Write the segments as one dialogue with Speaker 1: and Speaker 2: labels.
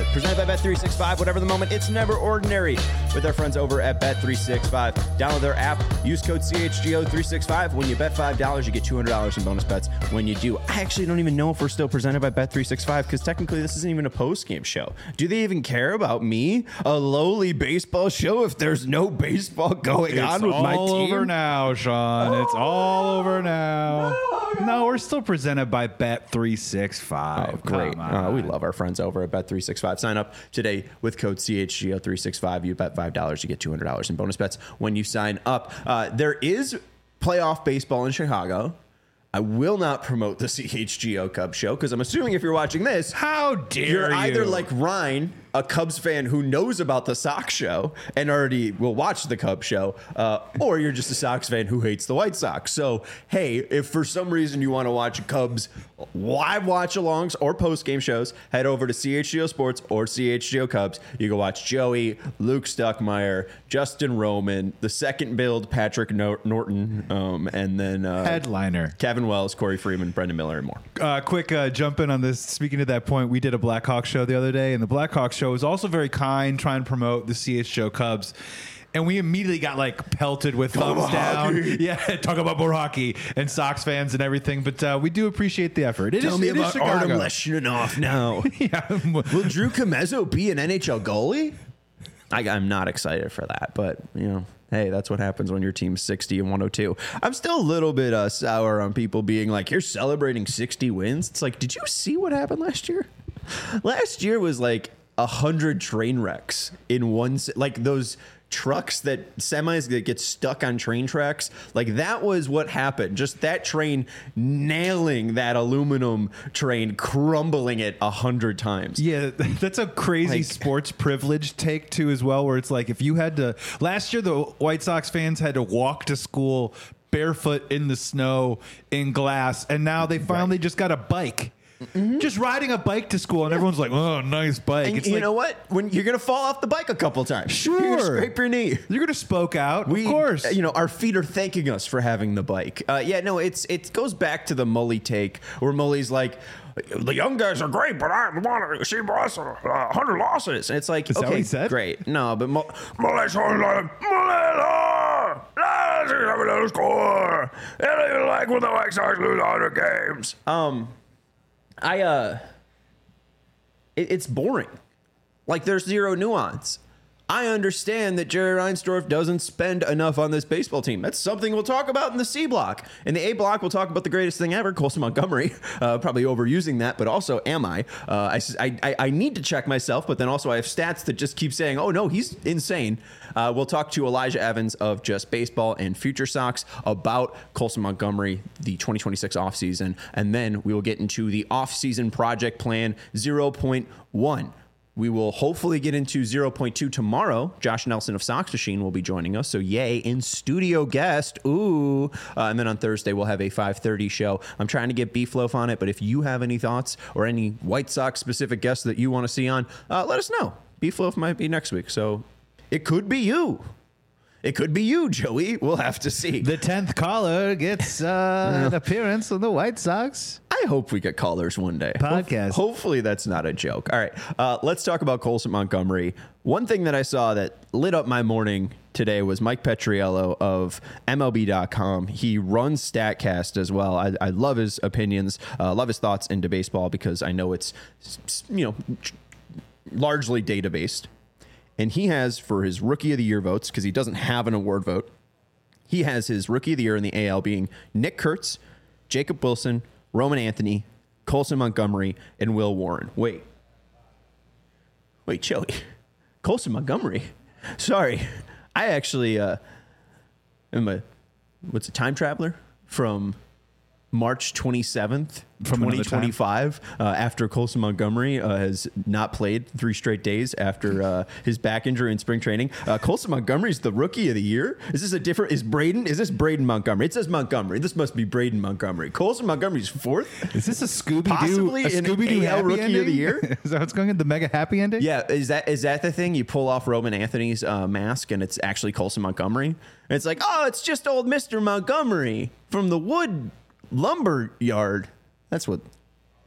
Speaker 1: Presented by Bet365. Whatever the moment, it's never ordinary. With our friends over at Bet365. Download their app. Use code CHGO365. When you bet $5, you get $200 in bonus bets when you do. I actually don't even know if we're still presented by Bet365 because technically this isn't even a post-game show. Do they even care about me? A lowly baseball show if there's no baseball going on with my team?
Speaker 2: It's all over now, Sean. It's all over now. No, we're still presented by Bet365.
Speaker 1: Oh, great. We love our friends over at Bet365. Sign up today with code CHGO365. You bet $5, you get $200 in bonus bets when you sign up. There is playoff baseball in Chicago. I will not promote the CHGO Cubs show because I'm assuming if you're watching this,
Speaker 2: how dare
Speaker 1: you're either like Ryan, a Cubs fan who knows about the Sox show and already will watch the Cubs show, or you're just a Sox fan who hates the White Sox. So, hey, if for some reason you want to watch Cubs live watch-alongs or post-game shows, head over to CHGO Sports or CHGO Cubs. You can watch Joey, Luke Stuckmeyer, Justin Roman, the second build Patrick Norton, and then
Speaker 2: headliner
Speaker 1: Kevin Wells, Corey Freeman, Brendan Miller, and more.
Speaker 2: Quick jump in on this. Speaking to that point, we did a Blackhawks show the other day, and the Blackhawks show was also very kind, trying to promote the CHGO Cubs. And we immediately got like pelted with thumbs down. Yeah, talk about more hockey and Sox fans and everything. But we do appreciate the effort.
Speaker 1: Tell me about Artem Leshinov now.
Speaker 2: Yeah.
Speaker 1: Will Drew Comezzo be an NHL goalie? I'm not excited for that, but you know. Hey, that's what happens when your team's 60 and 102. I'm still a little bit sour on people being like, you're celebrating 60 wins. It's like, did you see what happened last year? Last year was like 100 train wrecks in one, like those trucks that semis that get stuck on train tracks. Like that was what happened. Just that train nailing that aluminum train, crumbling it 100 times.
Speaker 2: Yeah, that's a crazy sports privilege take too as well, where it's like if you had to, last year the White Sox fans had to walk to school barefoot in the snow in glass, and now they finally just got a bike. Mm-hmm. Just riding a bike to school, and everyone's like, "Oh, nice bike."
Speaker 1: And
Speaker 2: it's
Speaker 1: you
Speaker 2: like,
Speaker 1: know what? When you're gonna fall off the bike a couple times,
Speaker 2: sure,
Speaker 1: you're gonna scrape your knee.
Speaker 2: You're gonna spoke out. Of course,
Speaker 1: you know our feet are thanking us for having the bike. It goes back to the Mully take, where Mully's like, "The young guys are great, but I want to see us 100 losses." And it's like,
Speaker 2: is that what he said?
Speaker 1: Great, no, but Mully's like, let's have a little score. I don't even like when the White Sox lose 100 games. It's boring. Like there's zero nuance. I understand that Jerry Reinsdorf doesn't spend enough on this baseball team. That's something we'll talk about in the C block. In the A block, we'll talk about the greatest thing ever, Colson Montgomery. Probably overusing that, but also am I? I need to check myself, but then also I have stats that just keep saying, oh no, he's insane. We'll talk to Elijah Evans of Just Baseball and Future Sox about Colson Montgomery, the 2026 offseason, and then we will get into the offseason project plan 0.1. We will hopefully get into 0.2 tomorrow. Josh Nelson of Sox Machine will be joining us. So yay, in studio guest. Ooh. And then on Thursday, we'll have a 5:30 show. I'm trying to get Beef Loaf on it, but if you have any thoughts or any White Sox specific guests that you want to see on, let us know. Beef Loaf might be next week. So it could be you. It could be you, Joey. We'll have to see.
Speaker 2: The 10th caller gets an appearance on the White Sox.
Speaker 1: I hope we get callers one day.
Speaker 2: Podcast.
Speaker 1: Hopefully that's not a joke. All right. Let's talk about Colson Montgomery. One thing that I saw that lit up my morning today was Mike Petriello of MLB.com. He runs StatCast as well. I love his opinions, love his thoughts into baseball because I know it's, largely data-based. And he has, for his Rookie of the Year votes, because he doesn't have an award vote, he has his Rookie of the Year in the AL being Nick Kurtz, Jacob Wilson, Roman Anthony, Colson Montgomery, and Will Warren. Wait, Joey. Colson Montgomery? Sorry. I actually am a time traveler from March 27th, 2025, after Colson Montgomery has not played 3 straight days after his back injury in spring training. Colson Montgomery's the Rookie of the Year. Is this is this Braden Montgomery? It says Montgomery. This must be Braden Montgomery. Colson Montgomery's 4th?
Speaker 2: Is this a Scooby-Doo?
Speaker 1: Possibly an AL Rookie ending? Of the Year?
Speaker 2: Is that what's going on? The mega happy ending?
Speaker 1: Yeah. Is that the thing? You pull off Roman Anthony's mask and it's actually Colson Montgomery? And it's like, oh, it's just old Mr. Montgomery from the wood lumber yard. That's what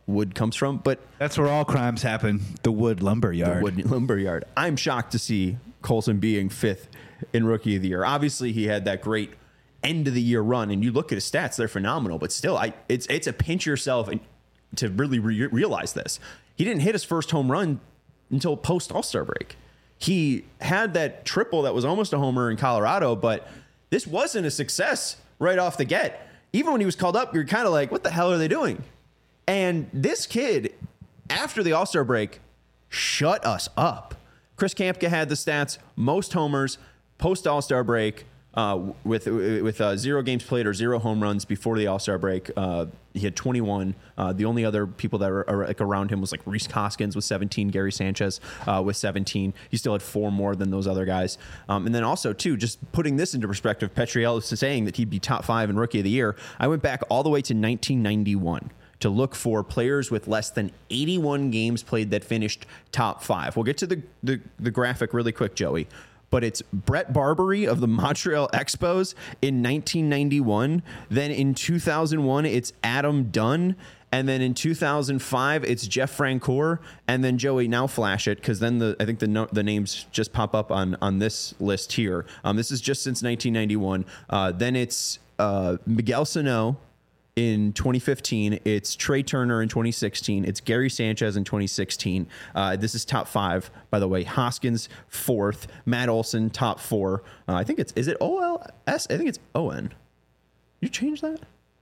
Speaker 1: wood comes from. But
Speaker 2: That's where all crimes happen. The Wood Lumber Yard.
Speaker 1: Wood Lumber Yard. I'm shocked to see Colson being 5th in Rookie of the Year. Obviously, he had that great end of the year run, and you look at his stats; they're phenomenal. But still, it's a pinch yourself and to really realize this. He didn't hit his first home run until post All-Star break. He had that triple that was almost a homer in Colorado, but this wasn't a success right off the get. Even when he was called up, you're kind of like, what the hell are they doing? And this kid, after the All-Star break, shut us up. Chris Kampka had the stats, most homers post All-Star break, with 0 games played or 0 home runs before the All-Star break. He had 21. The only other people that are like around him was like Rhys Hoskins with 17, Gary Sanchez with 17. He still had 4 more than those other guys. And then also, too, just putting this into perspective, Petriello is saying that he'd be top 5 in Rookie of the Year. I went back all the way to 1991 to look for players with less than 81 games played that finished top 5. We'll get to the graphic really quick, Joey. But it's Brett Barbary of the Montreal Expos in 1991. Then in 2001, it's Adam Dunn. And then in 2005, it's Jeff Francoeur. And then, Joey, now flash it, because then I think the names just pop up on this list here. This is just since 1991. Then it's Miguel Sano in 2015. It's Trey Turner in 2016. It's Gary Sanchez in 2016. This is top 5, by the way. Hoskins 4th. Matt Olson top 4. I think is it OLS? I think it's ON. You change that?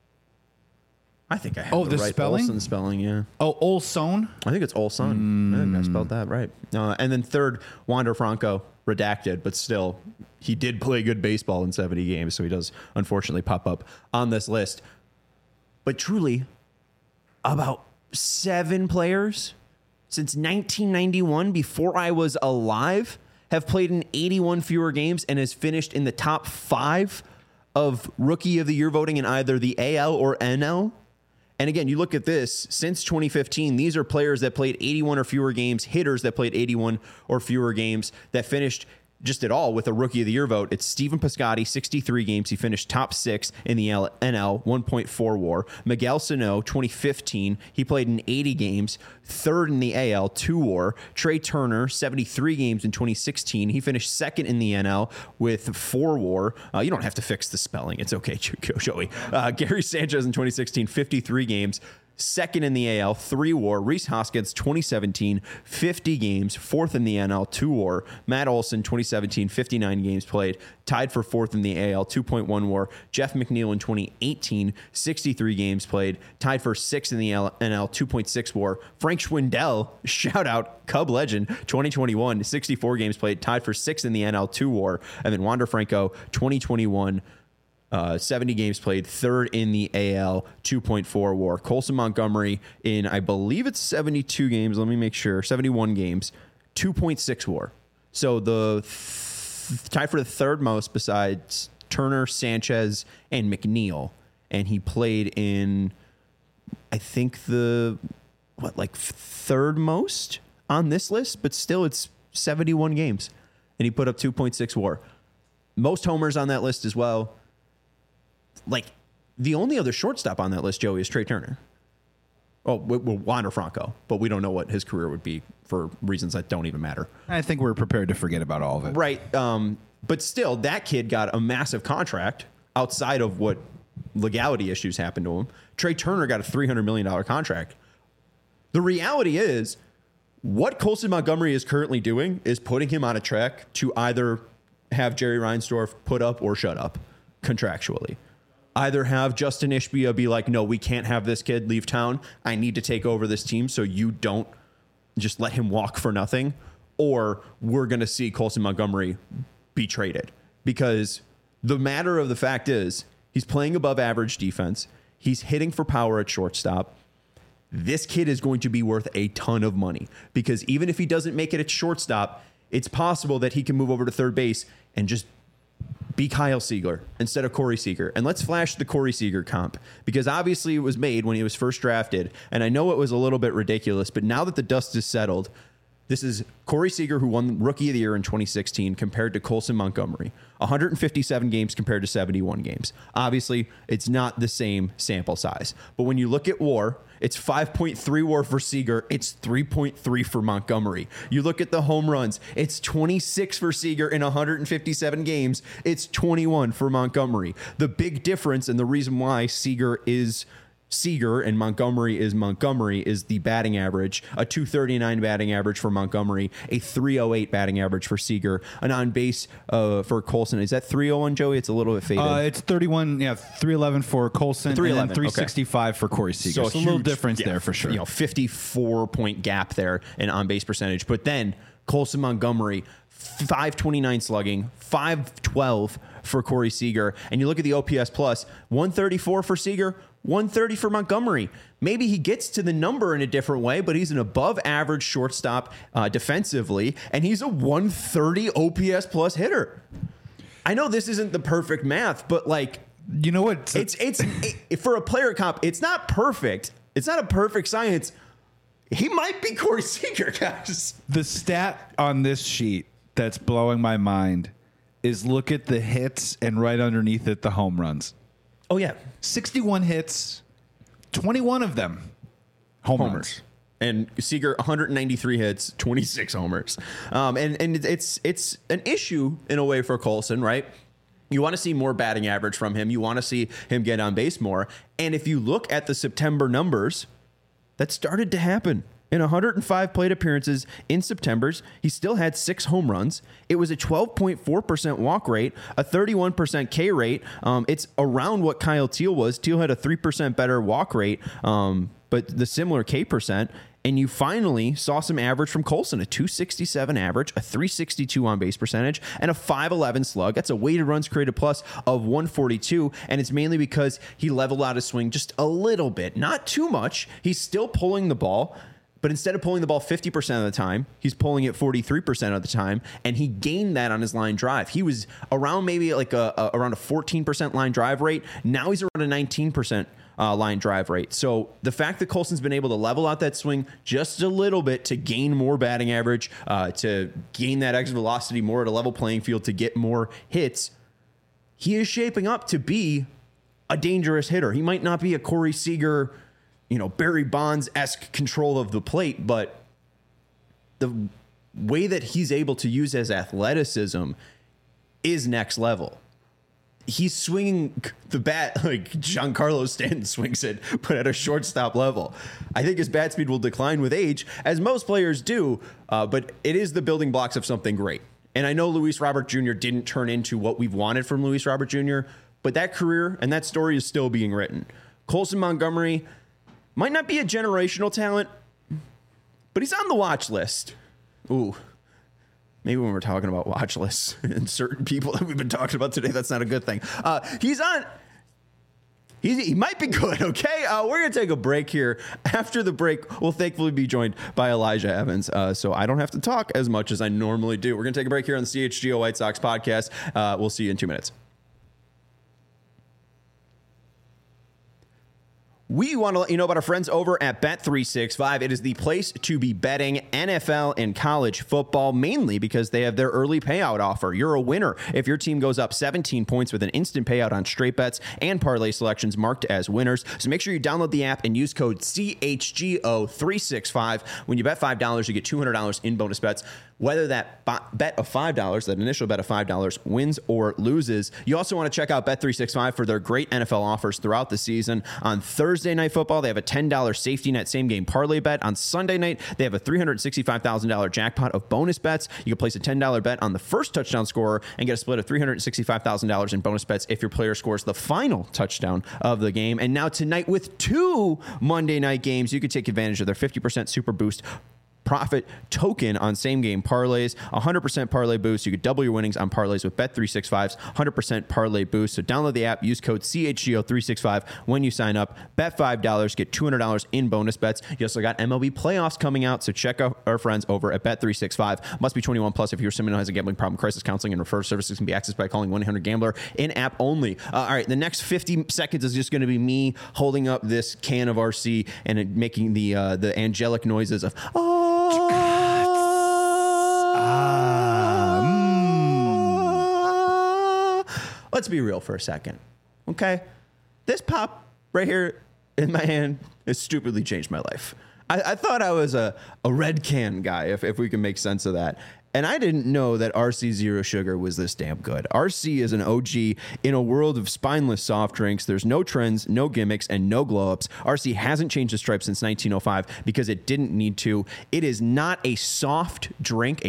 Speaker 1: I think I have
Speaker 2: the
Speaker 1: right
Speaker 2: spelling?
Speaker 1: Olson spelling, yeah.
Speaker 2: Oh, Olson?
Speaker 1: I think it's Olson. I think I spelled that right. And then 3rd, Wander Franco, redacted, but still, he did play good baseball in 70 games, so he does unfortunately pop up on this list. But truly, about 7 players since 1991, before I was alive, have played in 81 fewer games and has finished in the top 5 of Rookie of the Year voting in either the AL or NL. And again, you look at this, since 2015, these are players that played 81 or fewer games, hitters that played 81 or fewer games, that finished just at all with a Rookie of the Year vote. It's Stephen Piscotty, 63 games. He finished top 6 in the NL, 1.4 WAR. Miguel Sano, 2015. He played in 80 games, 3rd in the AL, 2 WAR. Trey Turner, 73 games in 2016. He finished 2nd in the NL with 4 WAR. You don't have to fix the spelling. It's okay, Joey. Gary Sanchez in 2016, 53 games. 2nd in the AL, 3 WAR. Rhys Hoskins, 2017, 50 games, 4th in the NL, 2 WAR. Matt Olson, 2017, 59 games played, tied for 4th in the AL, 2.1 WAR. Jeff McNeil in 2018, 63 games played, tied for 6th in the NL, 2.6 WAR. Frank Schwindel, shout out, Cub legend, 2021, 64 games played, tied for 6th in the NL, 2 WAR. And then Wander Franco, 2021, 70 games played, 3rd in the AL, 2.4 WAR. Colson Montgomery in, I believe it's 72 games. Let me make sure. 71 games, 2.6 WAR. So the tied for the 3rd most besides Turner, Sanchez, and McNeil. And he played in, I think, the 3rd most on this list, but still it's 71 games. And he put up 2.6 WAR. Most homers on that list as well. Like, the only other shortstop on that list, Joey, is Trey Turner. Oh, Wander Franco, but we don't know what his career would be for reasons that don't even matter.
Speaker 2: I think we're prepared to forget about all of it.
Speaker 1: Right. But still, that kid got a massive contract outside of what legality issues happened to him. Trey Turner got a $300 million contract. The reality is, what Colson Montgomery is currently doing is putting him on a track to either have Jerry Reinsdorf put up or shut up contractually. Either have Justin Ishbia be like, no, we can't have this kid leave town. I need to take over this team so you don't just let him walk for nothing. Or we're going to see Colson Montgomery be traded. Because the matter of the fact is, he's playing above average defense. He's hitting for power at shortstop. This kid is going to be worth a ton of money. Because even if he doesn't make it at shortstop, it's possible that he can move over to third base and just be Kyle Seager instead of Corey Seager. And let's flash the Corey Seager comp, because obviously it was made when he was first drafted. And I know it was a little bit ridiculous, but now that the dust is settled, This is Corey Seager, who won Rookie of the Year in 2016, compared to Colson Montgomery. 157 games compared to 71 games. Obviously, it's not the same sample size. But when you look at WAR, it's 5.3 WAR for Seager. It's 3.3 for Montgomery. You look at the home runs. It's 26 for Seager in 157 games. It's 21 for Montgomery. The big difference and the reason why Seager is Seager and Montgomery is the batting average, a 239 batting average for Montgomery, a 308 batting average for Seager, an on base for Colson. Is that 301, Joey? It's a little bit faded.
Speaker 2: It's 311 for Colson, 311, and 365 for Corey Seager. So a little difference there for sure.
Speaker 1: 54-point gap there in on base percentage. But then Colson Montgomery, 529 slugging, 512 for Corey Seager. And you look at the OPS plus, 134 for Seager, 130 for Montgomery. Maybe he gets to the number in a different way, but he's an above average shortstop defensively, and he's a 130 OPS plus hitter. I know this isn't the perfect math, but like,
Speaker 2: you know what?
Speaker 1: It's for a player comp, it's not perfect. It's not a perfect science. He might be Corey Seager, guys.
Speaker 2: The stat on this sheet that's blowing my mind is look at the hits and right underneath it, the home runs.
Speaker 1: Oh, yeah.
Speaker 2: 61 hits, 21 of them homers.
Speaker 1: And Seager, 193 hits, 26 homers. And it's an issue in a way for Colson, right? You want to see more batting average from him. You want to see him get on base more. And if you look at the September numbers, that started to happen. In 105 plate appearances in September's, he still had 6 home runs. It was a 12.4% walk rate, a 31% K rate. It's around what Kyle Teal was. Teal had a 3% better walk rate, but the similar K percent. And you finally saw some average from Colson, a 267 average, a 362 on base percentage, and a 511 slug. That's a weighted runs created plus of 142. And it's mainly because he leveled out his swing just a little bit, not too much. He's still pulling the ball. But instead of pulling the ball 50% of the time, he's pulling it 43% of the time, and he gained that on his line drive. He was around maybe like around a 14% line drive rate. Now he's around a 19% line drive rate. So the fact that Colson's been able to level out that swing just a little bit to gain more batting average, to gain that extra velocity more at a level playing field, to get more hits, he is shaping up to be a dangerous hitter. He might not be a Corey Seager, Barry Bonds-esque control of the plate, but the way that he's able to use his athleticism is next level. He's swinging the bat like Giancarlo Stanton swings it, but at a shortstop level. I think his bat speed will decline with age, as most players do, but it is the building blocks of something great. And I know Luis Robert Jr. didn't turn into what we've wanted from Luis Robert Jr., but that career and that story is still being written. Colson Montgomery might not be a generational talent, but he's on the watch list. Ooh, maybe when we're talking about watch lists and certain people that we've been talking about today, that's not a good thing. He might be good, okay? We're going to take a break here. After the break, we'll thankfully be joined by Elijah Evans, so I don't have to talk as much as I normally do. We're going to take a break here on the CHGO White Sox podcast. We'll see you in 2 minutes. We want to let you know about our friends over at Bet365. It is the place to be betting NFL and college football, mainly because they have their early payout offer. You're a winner if your team goes up 17 points with an instant payout on straight bets and parlay selections marked as winners. So make sure you download the app and use code CHGO365. When you bet $5, you get $200 in bonus bets. Whether that bet of $5, that initial bet of $5, wins or loses. You also want to check out Bet365 for their great NFL offers throughout the season. On Thursday Night Football, they have a $10 safety net same game parlay bet. On Sunday night, they have a $365,000 jackpot of bonus bets. You can place a $10 bet on the first touchdown scorer and get a split of $365,000 in bonus bets if your player scores the final touchdown of the game. And now tonight, with 2 Monday night games, you can take advantage of their 50% Super Boost profit token on same game parlays, 100% parlay boost. You could double your winnings on parlays with Bet365's 100% parlay boost. So download the app, use code CHGO365 when you sign up. Bet $5, get $200 in bonus bets. You also got MLB playoffs coming out, so check out our friends over at Bet365. Must be 21 plus if you're someone who has a gambling problem. Crisis counseling and referral services can be accessed by calling 1-800-GAMBLER in app only. All right, the next 50 seconds is just going to be me holding up this can of RC and making the angelic noises of let's be real for a second, okay? This pop right here in my hand has stupidly changed my life. I thought I was a red can guy, if we can make sense of that. And I didn't know that RC Zero Sugar was this damn good. RC is an OG in a world of spineless soft drinks. There's no trends, no gimmicks, and no glow-ups. RC hasn't changed the stripe since 1905 because it didn't need to. It is not a soft drink,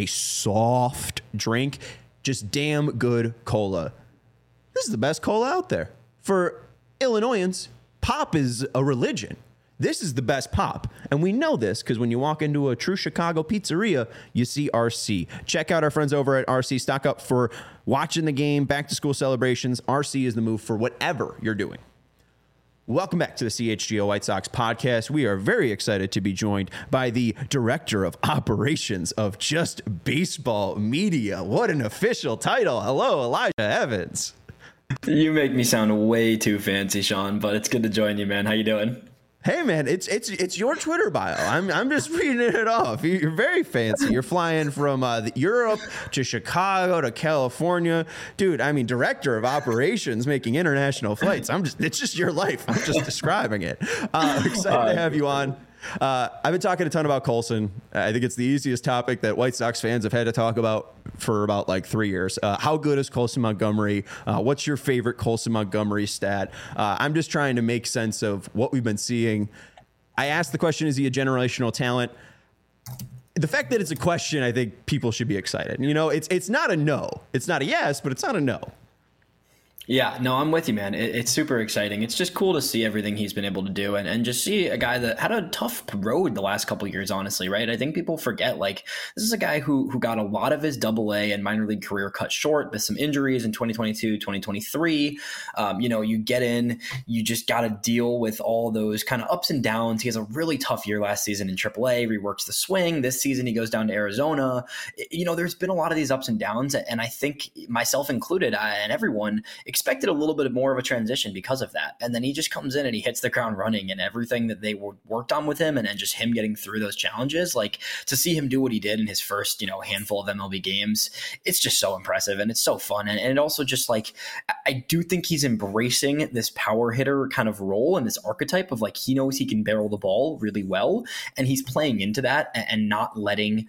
Speaker 1: just damn good cola. This is the best cola out there. For Illinoisans, pop is a religion. This is the best pop. And we know this because when you walk into a true Chicago pizzeria, you see RC. Check out our friends over at RC. Stock up for watching the game, back to school celebrations. RC is the move for whatever you're doing. Welcome back to the CHGO White Sox podcast. We are very excited to be joined by the Director of Operations of Just Baseball Media. What an official title. Hello, Elijah Evans.
Speaker 3: You make me sound way too fancy, Sean, but it's good to join you, man. How you doing?
Speaker 1: Hey man, it's your Twitter bio. I'm just reading it off. You're very fancy. You're flying from Europe to Chicago to California, dude. I mean, Director of Operations, making international flights. It's just your life. I'm just describing it. Excited to have you on. I've been talking a ton about Colson. I think it's the easiest topic that White Sox fans have had to talk about for about like 3 years. How good is Colson Montgomery? What's your favorite Colson Montgomery stat? I'm just trying to make sense of what we've been seeing. I asked the question, is he a generational talent? The fact that it's a question, I think people should be excited. You know, it's not a no. It's not a yes, but it's not a no.
Speaker 3: Yeah, no, I'm with you, man. It's super exciting. It's just cool to see everything he's been able to do and just see a guy that had a tough road the last couple of years, honestly, right? I think people forget, like, this is a guy who got a lot of his AA and minor league career cut short with some injuries in 2022, 2023. You get in, you just got to deal with all those kind of ups and downs. He has a really tough year last season in AAA, reworks the swing. This season, he goes down to Arizona. There's been a lot of these ups and downs, and I think myself included and everyone expected a little bit more of a transition because of that. And then he just comes in and he hits the ground running, and everything that they worked on with him and just him getting through those challenges, like to see him do what he did in his first, handful of MLB games, it's just so impressive and it's so fun. And it also just like, I do think he's embracing this power hitter kind of role and this archetype of like, he knows he can barrel the ball really well. And he's playing into that and not letting,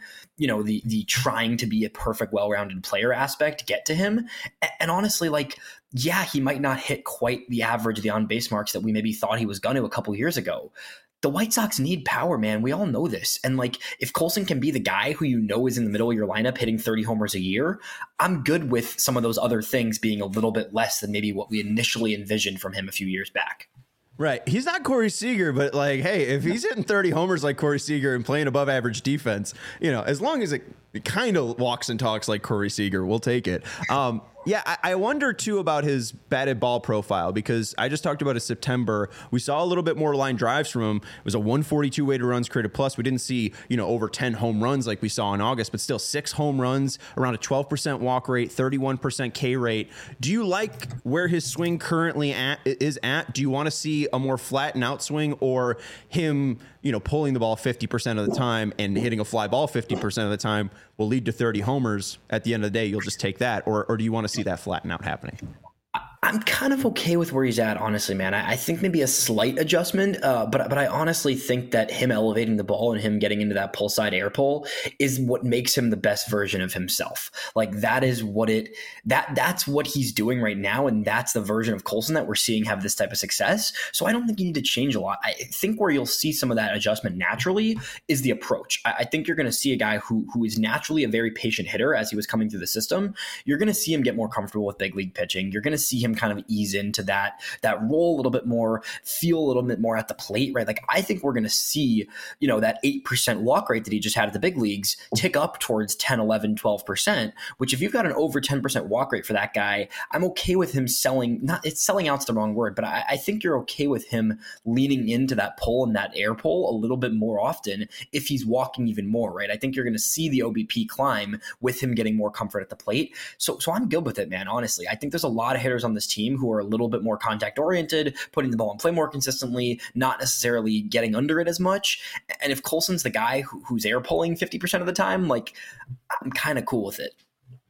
Speaker 3: the trying to be a perfect, well-rounded player aspect get to him. And honestly, like, yeah, he might not hit quite the average of the on-base marks that we maybe thought he was going to a couple years ago. The White Sox need power, man. We all know this. And like, if Colson can be the guy who is in the middle of your lineup hitting 30 homers a year, I'm good with some of those other things being a little bit less than maybe what we initially envisioned from him a few years back.
Speaker 1: Right. He's not Corey Seager, but like, hey, if he's hitting 30 homers like Corey Seager and playing above average defense, as long as it kind of walks and talks like Corey Seager, we'll take it. Yeah, I wonder, too, about his batted ball profile, because I just talked about his September. We saw a little bit more line drives from him. It was a 142 weighted runs created plus. We didn't see, over 10 home runs like we saw in August, but still 6 home runs, around a 12% walk rate, 31% K rate. Do you like where his swing currently is at? Do you want to see a more flat and out swing, or him, pulling the ball 50% of the time and hitting a fly ball 50% of the time will lead to 30 homers at the end of the day? You'll just take that, or do you want to see that flatten out happening?
Speaker 3: I'm kind of okay with where he's at, honestly, man. I think maybe a slight adjustment, but I honestly think that him elevating the ball and him getting into that pull side air pull is what makes him the best version of himself. Like that is what that's what he's doing right now, and that's the version of Colson that we're seeing have this type of success. So I don't think you need to change a lot. I think where you'll see some of that adjustment naturally is the approach. I think you're going to see a guy who is naturally a very patient hitter as he was coming through the system. You're going to see him get more comfortable with big league pitching. You're going to see him kind of ease into that role a little bit more, feel a little bit more at the plate, right? Like I think we're going to see, that 8% walk rate that he just had at the big leagues tick up towards 10, 11, 12%, which if you've got an over 10% walk rate for that guy, I'm okay with him selling out's the wrong word, but I think you're okay with him leaning into that pull and that air pull a little bit more often if he's walking even more, right? I think you're going to see the OBP climb with him getting more comfort at the plate. So I'm good with it, man. Honestly, I think there's a lot of hitters on this team who are a little bit more contact oriented, putting the ball in play more consistently, not necessarily getting under it as much. And if Colson's the guy who's air pulling 50% of the time, like I'm kind of cool with it.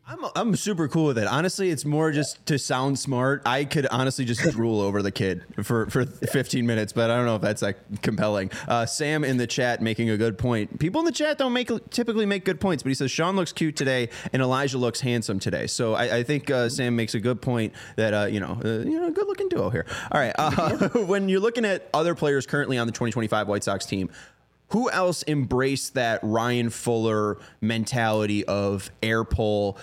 Speaker 1: I'm super cool with it. Honestly, it's more just to sound smart. I could honestly just drool over the kid for 15 minutes, but I don't know if that's like compelling. Sam in the chat making a good point. People in the chat don't typically make good points, but he says Sean looks cute today and Elijah looks handsome today. So I think Sam makes a good point that good looking duo here. All right, when you're looking at other players currently on the 2025 White Sox team, who else embraced that Ryan Fuller mentality of air pull,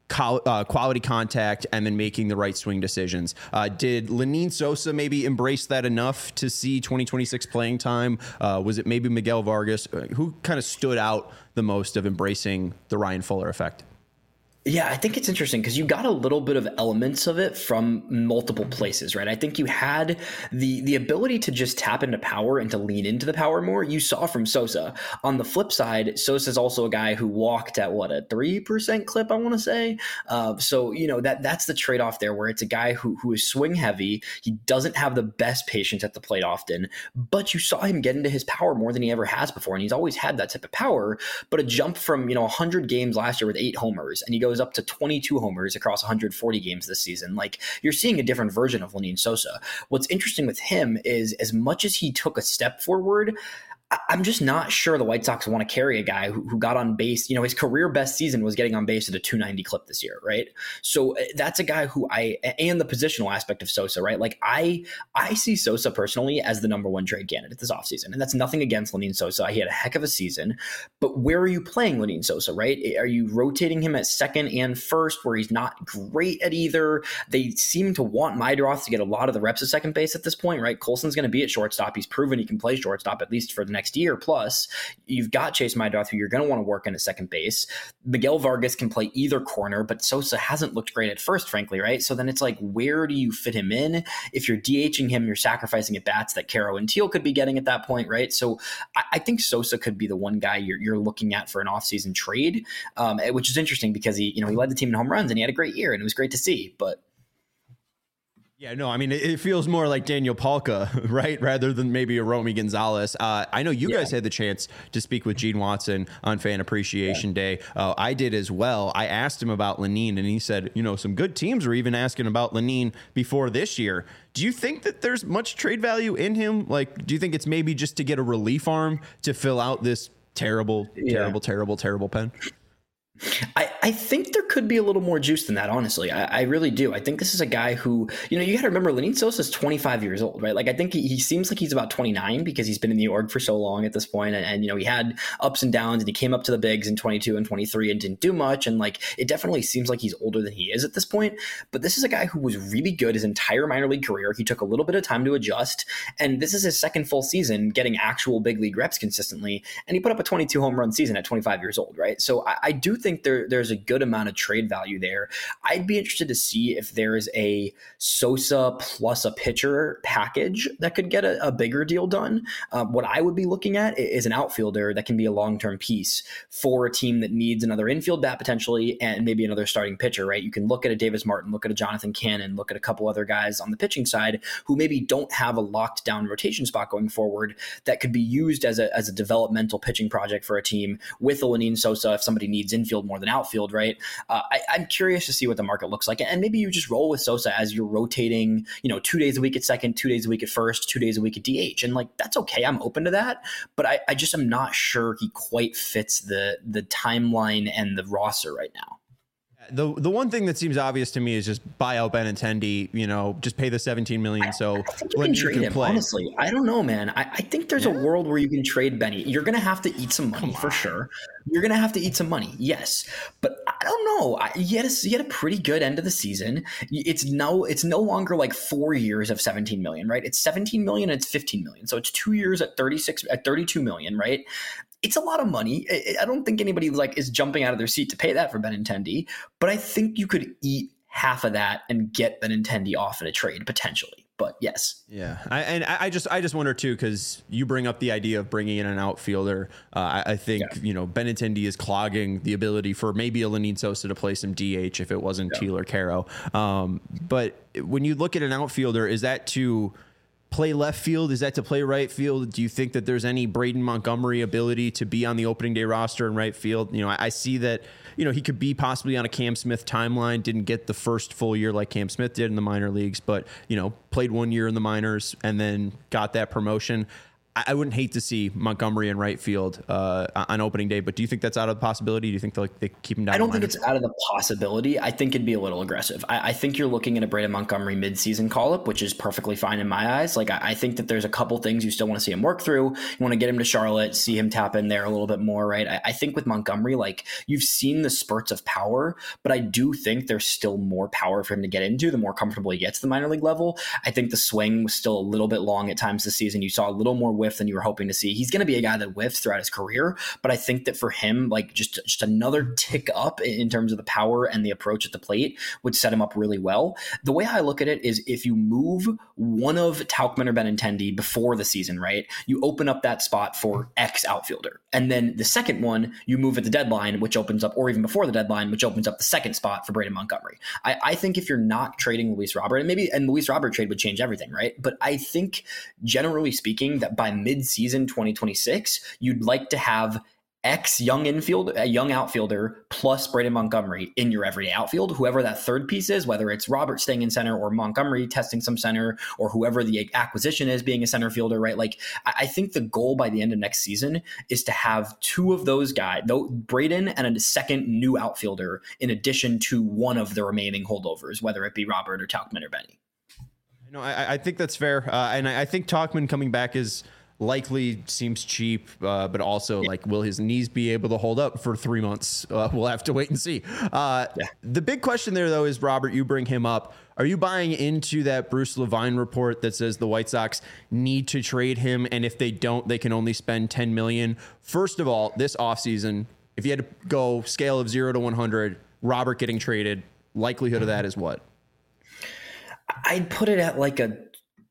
Speaker 1: quality contact, and then making the right swing decisions? Did Lenyn Sosa maybe embrace that enough to see 2026 playing time? Was it maybe Miguel Vargas? Who kind of stood out the most of embracing the Ryan Fuller effect?
Speaker 3: Yeah, I think it's interesting because you got a little bit of elements of it from multiple places, right? I think you had the ability to just tap into power and to lean into the power more. You saw from Sosa. On the flip side, Sosa's also a guy who walked at a 3% clip, I want to say. So that's the trade-off there, where it's a guy who is swing heavy. He doesn't have the best patience at the plate often, but you saw him get into his power more than he ever has before, and he's always had that type of power. But a jump from 100 games last year with 8 homers, and he goes up to 22 homers across 140 games this season. Like, you're seeing a different version of Lenyn Sosa. What's interesting with him is, as much as he took a step forward, I'm just not sure the White Sox want to carry a guy who got on base. His career best season was getting on base at a 290 clip this year, right? So that's a guy who and the positional aspect of Sosa, right? Like, I see Sosa personally as the number one trade candidate this offseason. And that's nothing against Lenyn Sosa. He had a heck of a season. But where are you playing Lenyn Sosa, right? Are you rotating him at second and first, where he's not great at either? They seem to want Meidroth to get a lot of the reps at second base at this point, right? Colson's going to be at shortstop. He's proven he can play shortstop, at least for the next year. Plus, you've got Chase Meidroth, who you're going to want to work in at second base. Miguel Vargas can play either corner, but Sosa hasn't looked great at first, frankly, right? So then it's like, where do you fit him in? If you're DHing him, you're sacrificing at bats that Caro and Teal could be getting at that point, right? So I think Sosa could be the one guy you're looking at for an offseason trade, which is interesting because he led the team in home runs and he had a great year and it was great to see, but
Speaker 1: yeah, no, I mean, it feels more like Daniel Palka, right? Rather than maybe a Romy Gonzalez. I know you guys had the chance to speak with Gene Watson on Fan Appreciation Day. I did as well. I asked him about Lenyn, and he said, some good teams were even asking about Lenyn before this year. Do you think that there's much trade value in him? Like, do you think it's maybe just to get a relief arm to fill out this terrible pen?
Speaker 3: I think there could be a little more juice than that, honestly. I really do. I think this is a guy who, you got to remember, Lenyn Sosa is 25 years old, right? Like, I think he seems like he's about 29 because he's been in the org for so long at this point. And he had ups and downs, and he came up to the bigs in 22 and 23 and didn't do much. And like, it definitely seems like he's older than he is at this point. But this is a guy who was really good his entire minor league career. He took a little bit of time to adjust. And this is his second full season getting actual big league reps consistently. And he put up a 22 home run season at 25 years old, right? So I do think there's a good amount of trade value there. I'd be interested to see if there is a Sosa plus a pitcher package that could get a bigger deal done. What I would be looking at is an outfielder that can be a long-term piece for a team that needs another infield bat potentially and maybe another starting pitcher, right? You can look at a Davis Martin, look at a Jonathan Cannon, look at a couple other guys on the pitching side who maybe don't have a locked down rotation spot going forward that could be used as a developmental pitching project for a team with a Lenyn Sosa if somebody needs infield more than outfield, right? I'm curious to see what the market looks like. And maybe you just roll with Sosa as you're rotating, 2 days a week at second, 2 days a week at first, 2 days a week at DH. And like, that's okay. I'm open to that. But I just am not sure he quite fits the timeline and the roster right now.
Speaker 1: The one thing that seems obvious to me is just buy out Benintendi, just pay the $17 million. So
Speaker 3: I think you can trade him, honestly. I don't know, man. I think there's a world where you can trade Benny. You're going to have to eat some money for sure. You're going to have to eat some money. Yes. But I don't know. He had a pretty good end of the season. It's no longer like 4 years of $17 million, right? It's $17 million and it's $15 million. So it's 2 years at $32 million, right? It's a lot of money. I don't think anybody is jumping out of their seat to pay that for Benintendi, but I think you could eat half of that and get Benintendi off in a trade potentially. But yes.
Speaker 1: Yeah. I just wonder too, because you bring up the idea of bringing in an outfielder. I think, Benintendi is clogging the ability for maybe a Lenyn Sosa to play some DH if it wasn't Teal or Caro. But when you look at an outfielder, is that to play left field? Is that to play right field? Do you think that there's any Braden Montgomery ability to be on the opening day roster in right field? I see that, he could be possibly on a Cam Smith timeline, didn't get the first full year like Cam Smith did in the minor leagues, but, played 1 year in the minors and then got that promotion. I wouldn't hate to see Montgomery in right field on opening day, but do you think that's out of the possibility? Do you think they keep him down?
Speaker 3: I don't think it's out of the possibility. I think it'd be a little aggressive. I think you're looking at a Braden Montgomery midseason call-up, which is perfectly fine in my eyes. Like, I think that there's a couple things you still want to see him work through. You want to get him to Charlotte, see him tap in there a little bit more, right? I think with Montgomery, like, you've seen the spurts of power, but I do think there's still more power for him to get into the more comfortable he gets to the minor league level. I think the swing was still a little bit long at times this season. You saw a little more whiff than you were hoping to see. He's going to be a guy that whiffs throughout his career, but I think that for him, like just another tick up in terms of the power and the approach at the plate would set him up really well. The way I look at it is if you move one of Tauchman or Benintendi before the season, right, you open up that spot for X outfielder. And then the second one, you move at the deadline, which opens up, or even before the deadline, which opens up the second spot for Braden Montgomery. I think if you're not trading Luis Robert, and Luis Robert trade would change everything, right? But I think generally speaking that by mid-season 2026, you'd like to have X young outfielder plus Braden Montgomery in your everyday outfield, whoever that third piece is, whether it's Robert staying in center or Montgomery testing some center or whoever the acquisition is being a center fielder, right? Like, I think the goal by the end of next season is to have two of those guys, Braden and a second new outfielder in addition to one of the remaining holdovers, whether it be Robert or Tauchman or Benny.
Speaker 1: I think that's fair. And I think Tauchman coming back is likely seems cheap, but also like, will his knees be able to hold up for 3 months? We'll have to wait and see. The big question there, though, is Robert, you bring him up. Are you buying into that Bruce Levine report that says the White Sox need to trade him, and if they don't, they can only spend $10 million? First of all, this offseason, if you had to go scale of 0 to 100, Robert getting traded, likelihood of that is what?
Speaker 3: I'd put it at like a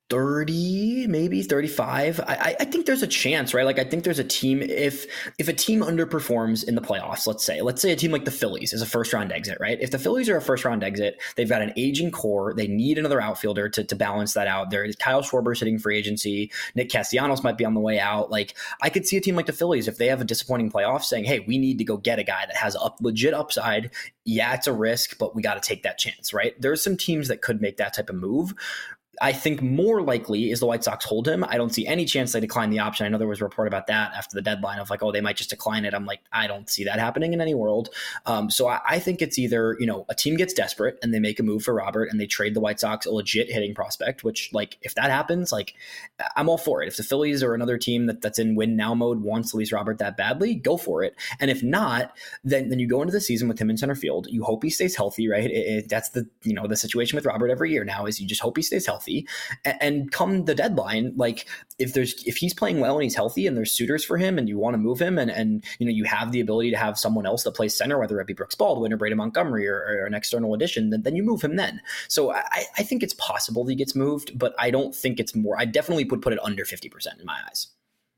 Speaker 3: 30, maybe 35. I think there's a chance, right? Like, I think there's a team, if a team underperforms in the playoffs, let's say a team like the Phillies is a first round exit, right? If the Phillies are a first round exit, they've got an aging core. They need another outfielder to balance that out. There's Kyle Schwarber sitting free agency. Nick Castellanos might be on the way out. Like, I could see a team like the Phillies, if they have a disappointing playoff, saying, hey, we need to go get a guy that has a legit upside. Yeah, it's a risk, but we got to take that chance, right? There's some teams that could make that type of move. I think more likely is the White Sox hold him. I don't see any chance they decline the option. I know there was a report about that after the deadline of like, oh, they might just decline it. I'm like, I don't see that happening in any world. So I think it's either, a team gets desperate and they make a move for Robert and they trade the White Sox a legit hitting prospect, which, like, if that happens, like, I'm all for it. If the Phillies or another team that's in win now mode wants Luis Robert that badly, go for it. And if not, then you go into the season with him in center field. You hope he stays healthy, right? That's the situation with Robert every year now is you just hope he stays healthy. And come the deadline, like, if he's playing well and he's healthy and there's suitors for him and you want to move him and you have the ability to have someone else that plays center, whether it be Brooks Baldwin or Braden Montgomery or an external addition, then you move him then. So I think it's possible that he gets moved, but I don't think it's more. I definitely would put it under 50% in my eyes.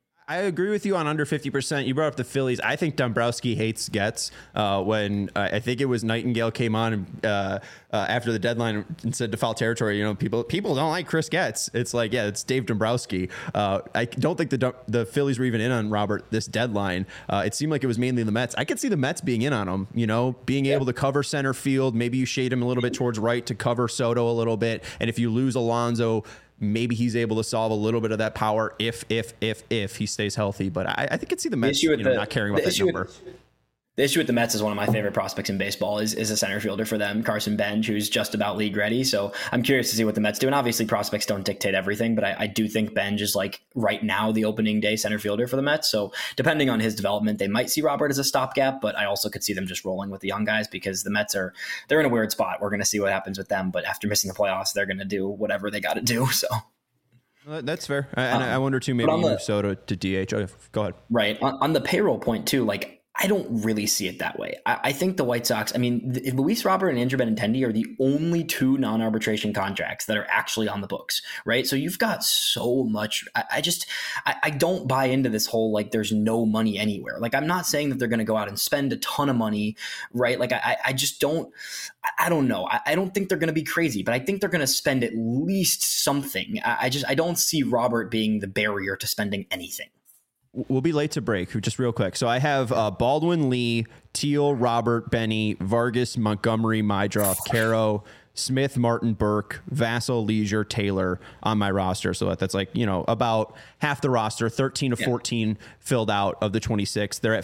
Speaker 1: I agree with you on under 50%. You brought up the Phillies. I think Dombrowski hates Getz. When I think it was Nightingale came on after the deadline and said to foul territory, people don't like Chris Getz. It's like, yeah, it's Dave Dombrowski. I don't think the Phillies were even in on Robert this deadline. It seemed like it was mainly the Mets. I could see the Mets being in on him, being able to cover center field. Maybe you shade him a little bit towards right to cover Soto a little bit. And if you lose Alonso, maybe he's able to solve a little bit of that power if he stays healthy. But I think I'd see the Mets not caring about that number.
Speaker 3: The issue with the Mets is one of my favorite prospects in baseball is a center fielder for them, Carson Bench, who's just about league ready. So I'm curious to see what the Mets do. And obviously prospects don't dictate everything, but I do think Bench is, like, right now the opening day center fielder for the Mets. So depending on his development, they might see Robert as a stopgap, but I also could see them just rolling with the young guys because the Mets they're in a weird spot. We're going to see what happens with them, but after missing the playoffs, they're going to do whatever they got to do. So.
Speaker 1: That's fair. And I wonder too, maybe you move Soto to DH. Oh, go ahead.
Speaker 3: Right. On the payroll point too, like, I don't really see it that way. I think the White Sox, I mean, Luis Robert and Andrew Benintendi are the only two non-arbitration contracts that are actually on the books, right? So you've got so much. I don't buy into this whole, like, there's no money anywhere. Like, I'm not saying that they're going to go out and spend a ton of money, right? Like, I just don't, I don't know. I don't think they're going to be crazy, but I think they're going to spend at least something. I don't see Robert being the barrier to spending anything.
Speaker 1: We'll be late to break, just real quick. So I have Baldwin, Lee, Teal, Robert, Benny, Vargas, Montgomery, Mydroff, Caro, Smith, Martin, Burke, Vassell, Leisure, Taylor on my roster. So that's like, about half the roster, 13 to 14 filled out of the 26. They're at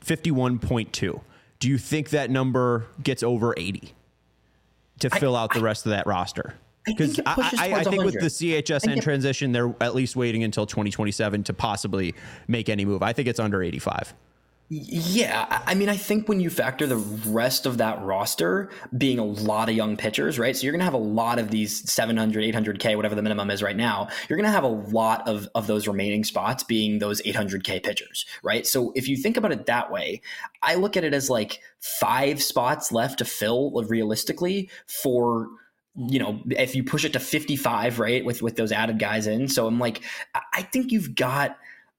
Speaker 1: 51.2. Do you think that number gets over 80 to fill out the rest of that roster? Because I think with the CHSN transition, they're at least waiting until 2027 to possibly make any move. I think it's under 85.
Speaker 3: Yeah, I mean, I think when you factor the rest of that roster being a lot of young pitchers, right? So you're going to have a lot of these 700, 800K, whatever the minimum is right now. You're going to have a lot of those remaining spots being those 800K pitchers, right? So if you think about it that way, I look at it as like 5 spots left to fill realistically for, if you push it to 55, right, with those added guys in. So I'm like, I think you've got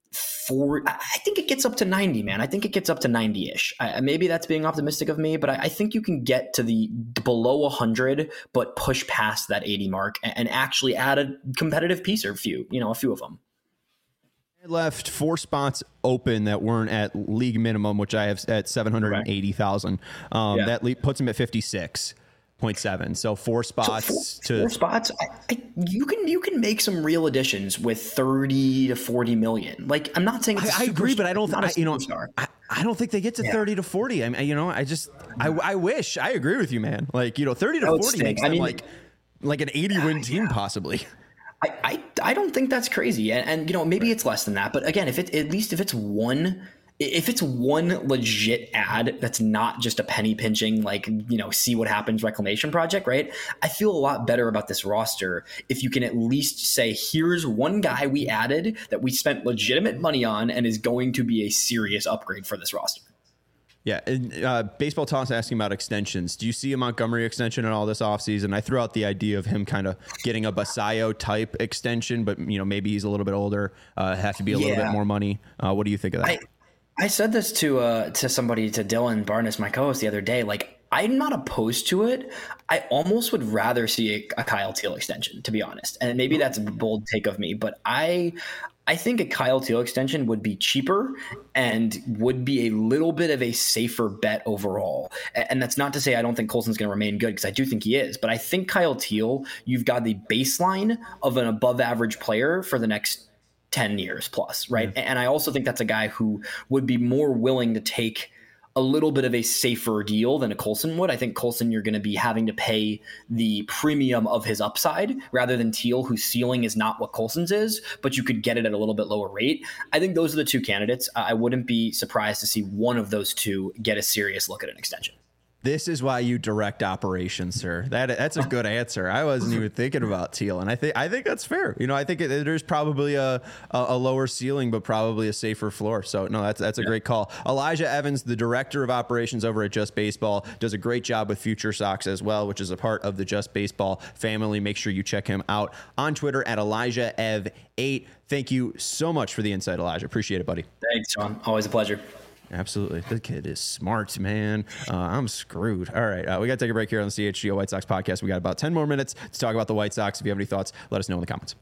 Speaker 3: I think it gets up to 90, man. I think it gets up to 90-ish. Maybe that's being optimistic of me, but I think you can get to the below 100, but push past that 80 mark and actually add a competitive piece or a few of them.
Speaker 1: I left 4 spots open that weren't at league minimum, which I have at 780,000. That puts them at 56.7. So 4 spots.
Speaker 3: Four spots. You can make some real additions with 30 to 40 million. Like, I'm not saying
Speaker 1: I agree, but I don't. I don't think they get to 30 to 40. I mean, I wish. I agree with you, man. Like, 30 to 40 makes them like an 80-win team possibly.
Speaker 3: I don't think that's crazy, and maybe it's less than that. But again, if it's one legit ad that's not just a penny pinching, like, see what happens reclamation project, right? I feel a lot better about this roster if you can at least say, here's one guy we added that we spent legitimate money on and is going to be a serious upgrade for this roster.
Speaker 1: Yeah. And, Baseball Toss asking about extensions. Do you see a Montgomery extension in all this offseason? I threw out the idea of him kind of getting a Basayo type extension, but maybe he's a little bit older, have to be a little bit more money. What do you think of that?
Speaker 3: I said this to somebody, to Dylan Barnes, my co-host, the other day. Like, I'm not opposed to it. I almost would rather see a Kyle Teel extension, to be honest. And maybe that's a bold take of me, but I think a Kyle Teel extension would be cheaper and would be a little bit of a safer bet overall. And that's not to say I don't think Colson's going to remain good, because I do think he is. But I think Kyle Teel, you've got the baseline of an above average player for the next 10 years plus, right? And I also think that's a guy who would be more willing to take a little bit of a safer deal than a Colson would. I think Colson, you're going to be having to pay the premium of his upside rather than Teel, whose ceiling is not what Colson's is, but you could get it at a little bit lower rate. I think those are the 2 candidates. I wouldn't be surprised to see one of those 2 get a serious look at an extension.
Speaker 1: This is why you direct operations, sir. That's a good answer. I wasn't even thinking about Teel, and I think that's fair. I think there's probably a lower ceiling, but probably a safer floor. So no, that's a great call. Elijah Evans, the director of operations over at Just Baseball, does a great job with Future Sox as well, which is a part of the Just Baseball family. Make sure you check him out on Twitter at ElijahEv8. Thank you so much for the insight, Elijah. Appreciate it, buddy.
Speaker 3: Thanks, John. Always a pleasure.
Speaker 1: Absolutely. The kid is smart, man. I'm screwed. All right. We got to take a break here on the CHGO White Sox podcast. We got about 10 more minutes to talk about the White Sox. If you have any thoughts, let us know in the comments.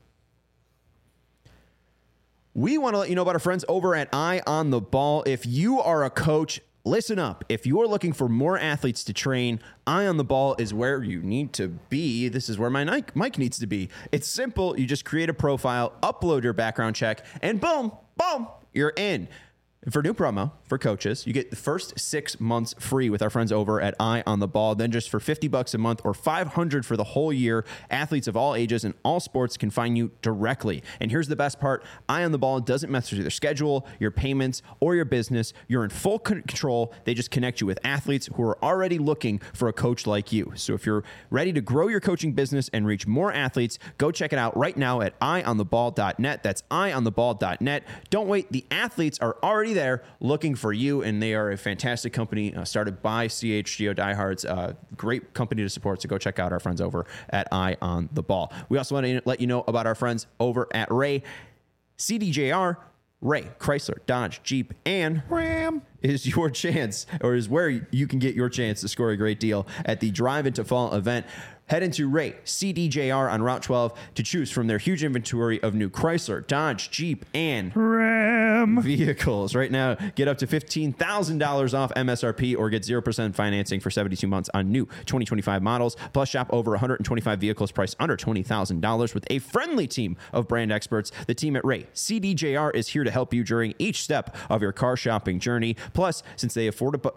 Speaker 1: We want to let you know about our friends over at Eye on the Ball. If you are a coach, listen up. If you're looking for more athletes to train, Eye on the Ball is where you need to be. This is where my mic needs to be. It's simple. You just create a profile, upload your background check, and boom, you're in. For new promo for coaches, you get the first 6 months free with our friends over at Eye on the Ball. Then just for $50 a month or $500 for the whole year, athletes of all ages and all sports can find you directly. And here's the best part. Eye on the Ball doesn't mess with your schedule, your payments, or your business. You're in full control. They just connect you with athletes who are already looking for a coach like you. So if you're ready to grow your coaching business and reach more athletes, go check it out right now at eyeontheball.net. That's eyeontheball.net. Don't wait. The athletes are already already there looking for you, and they are a fantastic company started by CHGO diehards. Great company to support, so go check out our friends over at Eye on the Ball. We also want to let you know about our friends over at Ray CDJR. Ray, Chrysler, Dodge, Jeep, and Ram is your chance, or is where you can get your chance to score a great deal at the Drive Into Fall event. Head into Ray CDJR on Route 12 to choose from their huge inventory of new Chrysler, Dodge, Jeep, and Ram vehicles. Right now, get up to $15,000 off MSRP or get 0% financing for 72 months on new 2025 models. Plus, shop over 125 vehicles priced under $20,000 with a friendly team of brand experts. The team at Ray CDJR is here to help you during each step of your car shopping journey. Plus, since they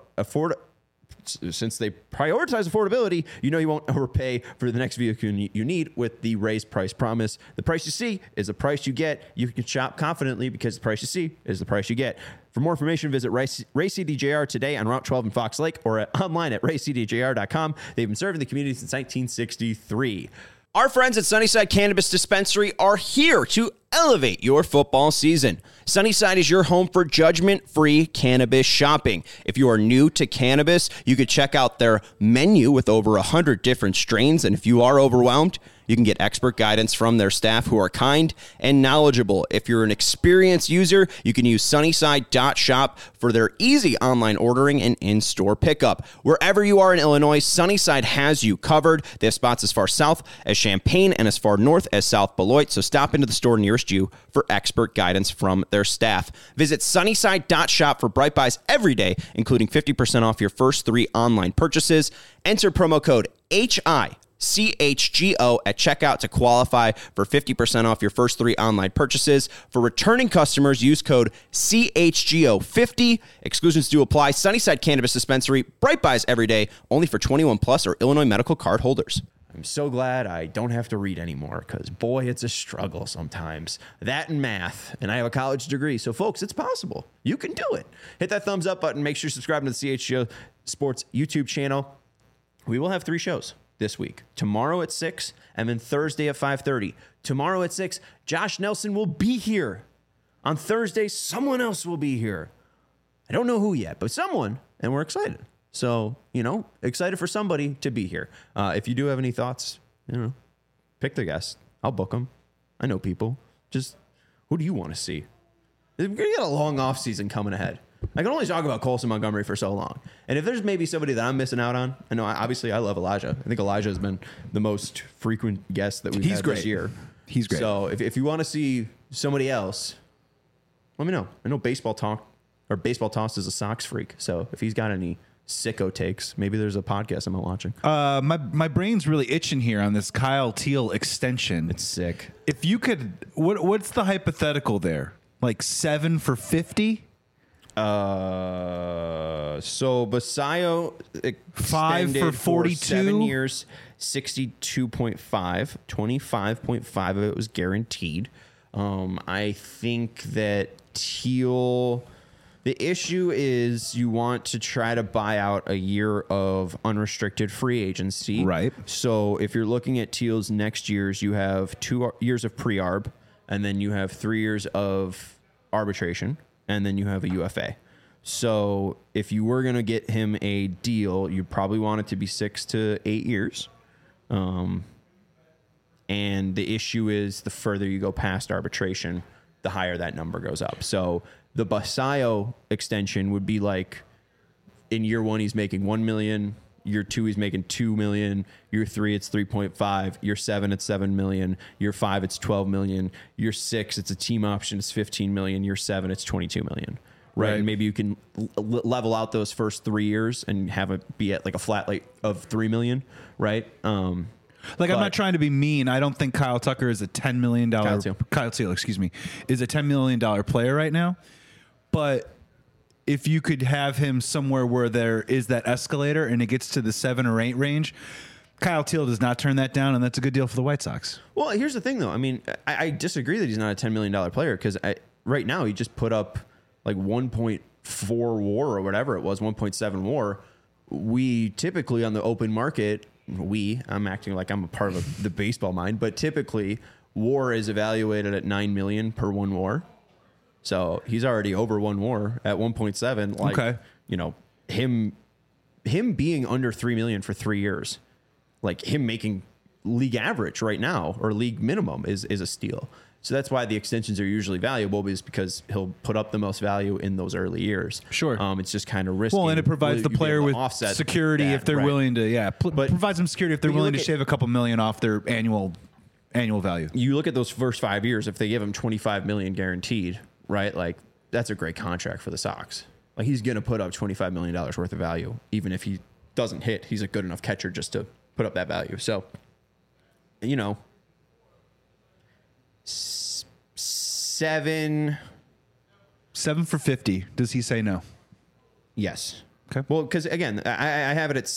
Speaker 1: since they prioritize affordability, you know you won't overpay for the next vehicle you need with the raised price promise. The price you see is the price you get. You can shop confidently because the price you see is the price you get. For more information, visit Ray CDJR today on Route 12 in Fox Lake or online at raycdjr.com. They've been serving the community since 1963. Our friends at Sunnyside Cannabis Dispensary are here to elevate your football season. Sunnyside is your home for judgment-free cannabis shopping. If you are new to cannabis, you could check out their menu with over 100 different strains. And if you are overwhelmed, you can get expert guidance from their staff who are kind and knowledgeable. If you're an experienced user, you can use Sunnyside.shop for their easy online ordering and in-store pickup. Wherever you are in Illinois, Sunnyside has you covered. They have spots as far south as Champaign and as far north as South Beloit. So stop into the store nearest you for expert guidance from their staff. Visit Sunnyside.shop for Bright Buys every day, including 50% off your first 3 online purchases. Enter promo code HICHGO at checkout to qualify for 50% off your first 3 online purchases. For returning customers, use code CHGO50. Exclusions do apply. Sunnyside Cannabis Dispensary, Bright Buys every day, only for 21 plus or Illinois medical card holders. I'm so glad I don't have to read anymore because, boy, it's a struggle sometimes. That and math, and I have a college degree. So, folks, it's possible. You can do it. Hit that thumbs up button. Make sure you subscribe to the CHGO Sports YouTube channel. We will have 3 shows this week. Tomorrow at 6 and then Thursday at 5:30. Tomorrow at 6, Josh Nelson will be here. On Thursday, someone else will be here. I don't know who yet, but someone, and we're excited. So, excited for somebody to be here. If you do have any thoughts, pick the guest. I'll book them. I know people. Just, who do you want to see? We're going to get a long off season coming ahead. I can only talk about Colson Montgomery for so long. And if there's maybe somebody that I'm missing out on, I know, obviously, I love Elijah. I think Elijah has been the most frequent guest that we've had this year.
Speaker 2: He's great.
Speaker 1: So if you want to see somebody else, let me know. I know Baseball Toss is a Sox freak. So if he's got any sicko takes, maybe there's a podcast I'm not watching.
Speaker 2: My brain's really itching here on this Kyle Teal extension.
Speaker 1: It's sick.
Speaker 2: If you could, what's the hypothetical there? Like 7 for 50?
Speaker 1: So Basayo
Speaker 2: 5 for 42,
Speaker 1: 7 years, 62.5, 25.5 of it was guaranteed. I think that Teal, the issue is you want to try to buy out a year of unrestricted free agency.
Speaker 2: Right.
Speaker 1: So if you're looking at Teal's next years, you have 2 years of pre-arb, and then you have 3 years of arbitration, and then you have a UFA. So if you were going to get him a deal, you'd probably want it to be 6 to 8 years. And the issue is the further you go past arbitration, the higher that number goes up. So the Basayo extension would be like in year 1, he's making $1 million. Year 2, he's making $2 million. Year 3, it's 3.5. Year 7, it's $7 million. Year 5, it's $12 million. Year 6, it's a team option. It's $15 million. Year 7, it's $22 million. Right. And maybe you can level out those first 3 years and have it be at like a flat rate of $3 million. Right.
Speaker 2: I'm not trying to be mean. I don't think Kyle Tucker is a $10 million. Kyle Teal, excuse me, is a $10 million player right now. But if you could have him somewhere where there is that escalator and it gets to the 7 or 8 range, Kyle Teal does not turn that down, and that's a good deal for the White Sox.
Speaker 1: Well, here's the thing, though. I mean, I disagree that he's not a $10 million player because right now he just put up like 1.4 WAR or whatever it was, 1.7 WAR. We typically on the open market, I'm acting like I'm a part of the baseball mind, but typically WAR is evaluated at $9 million per 1 WAR. So he's already over one WAR at 1.7. Like,
Speaker 2: Okay.
Speaker 1: you know, him being under 3 million for 3 years, like him making league average right now or league minimum is a steal. So that's why the extensions are usually valuable, is because he'll put up the most value in those early years.
Speaker 2: Sure.
Speaker 1: It's just kind of risky.
Speaker 2: Well, and it provides the
Speaker 1: You'd be
Speaker 2: player
Speaker 1: able
Speaker 2: with
Speaker 1: to offset
Speaker 2: security
Speaker 1: that,
Speaker 2: if they're
Speaker 1: right.
Speaker 2: willing to,
Speaker 1: But-
Speaker 2: provides them security if they're
Speaker 1: but you
Speaker 2: willing to
Speaker 1: look at-
Speaker 2: shave a couple million off their annual value.
Speaker 1: You look at those first 5 years, if they give him 25 million guaranteed, right? Like that's a great contract for the Sox. Like he's going to put up $25 million worth of value. Even if he doesn't hit, he's a good enough catcher just to put up that value. So, you know, 7.
Speaker 2: 7 for 50. Does he say no?
Speaker 1: Yes.
Speaker 2: Okay.
Speaker 1: Well, because again, I have it at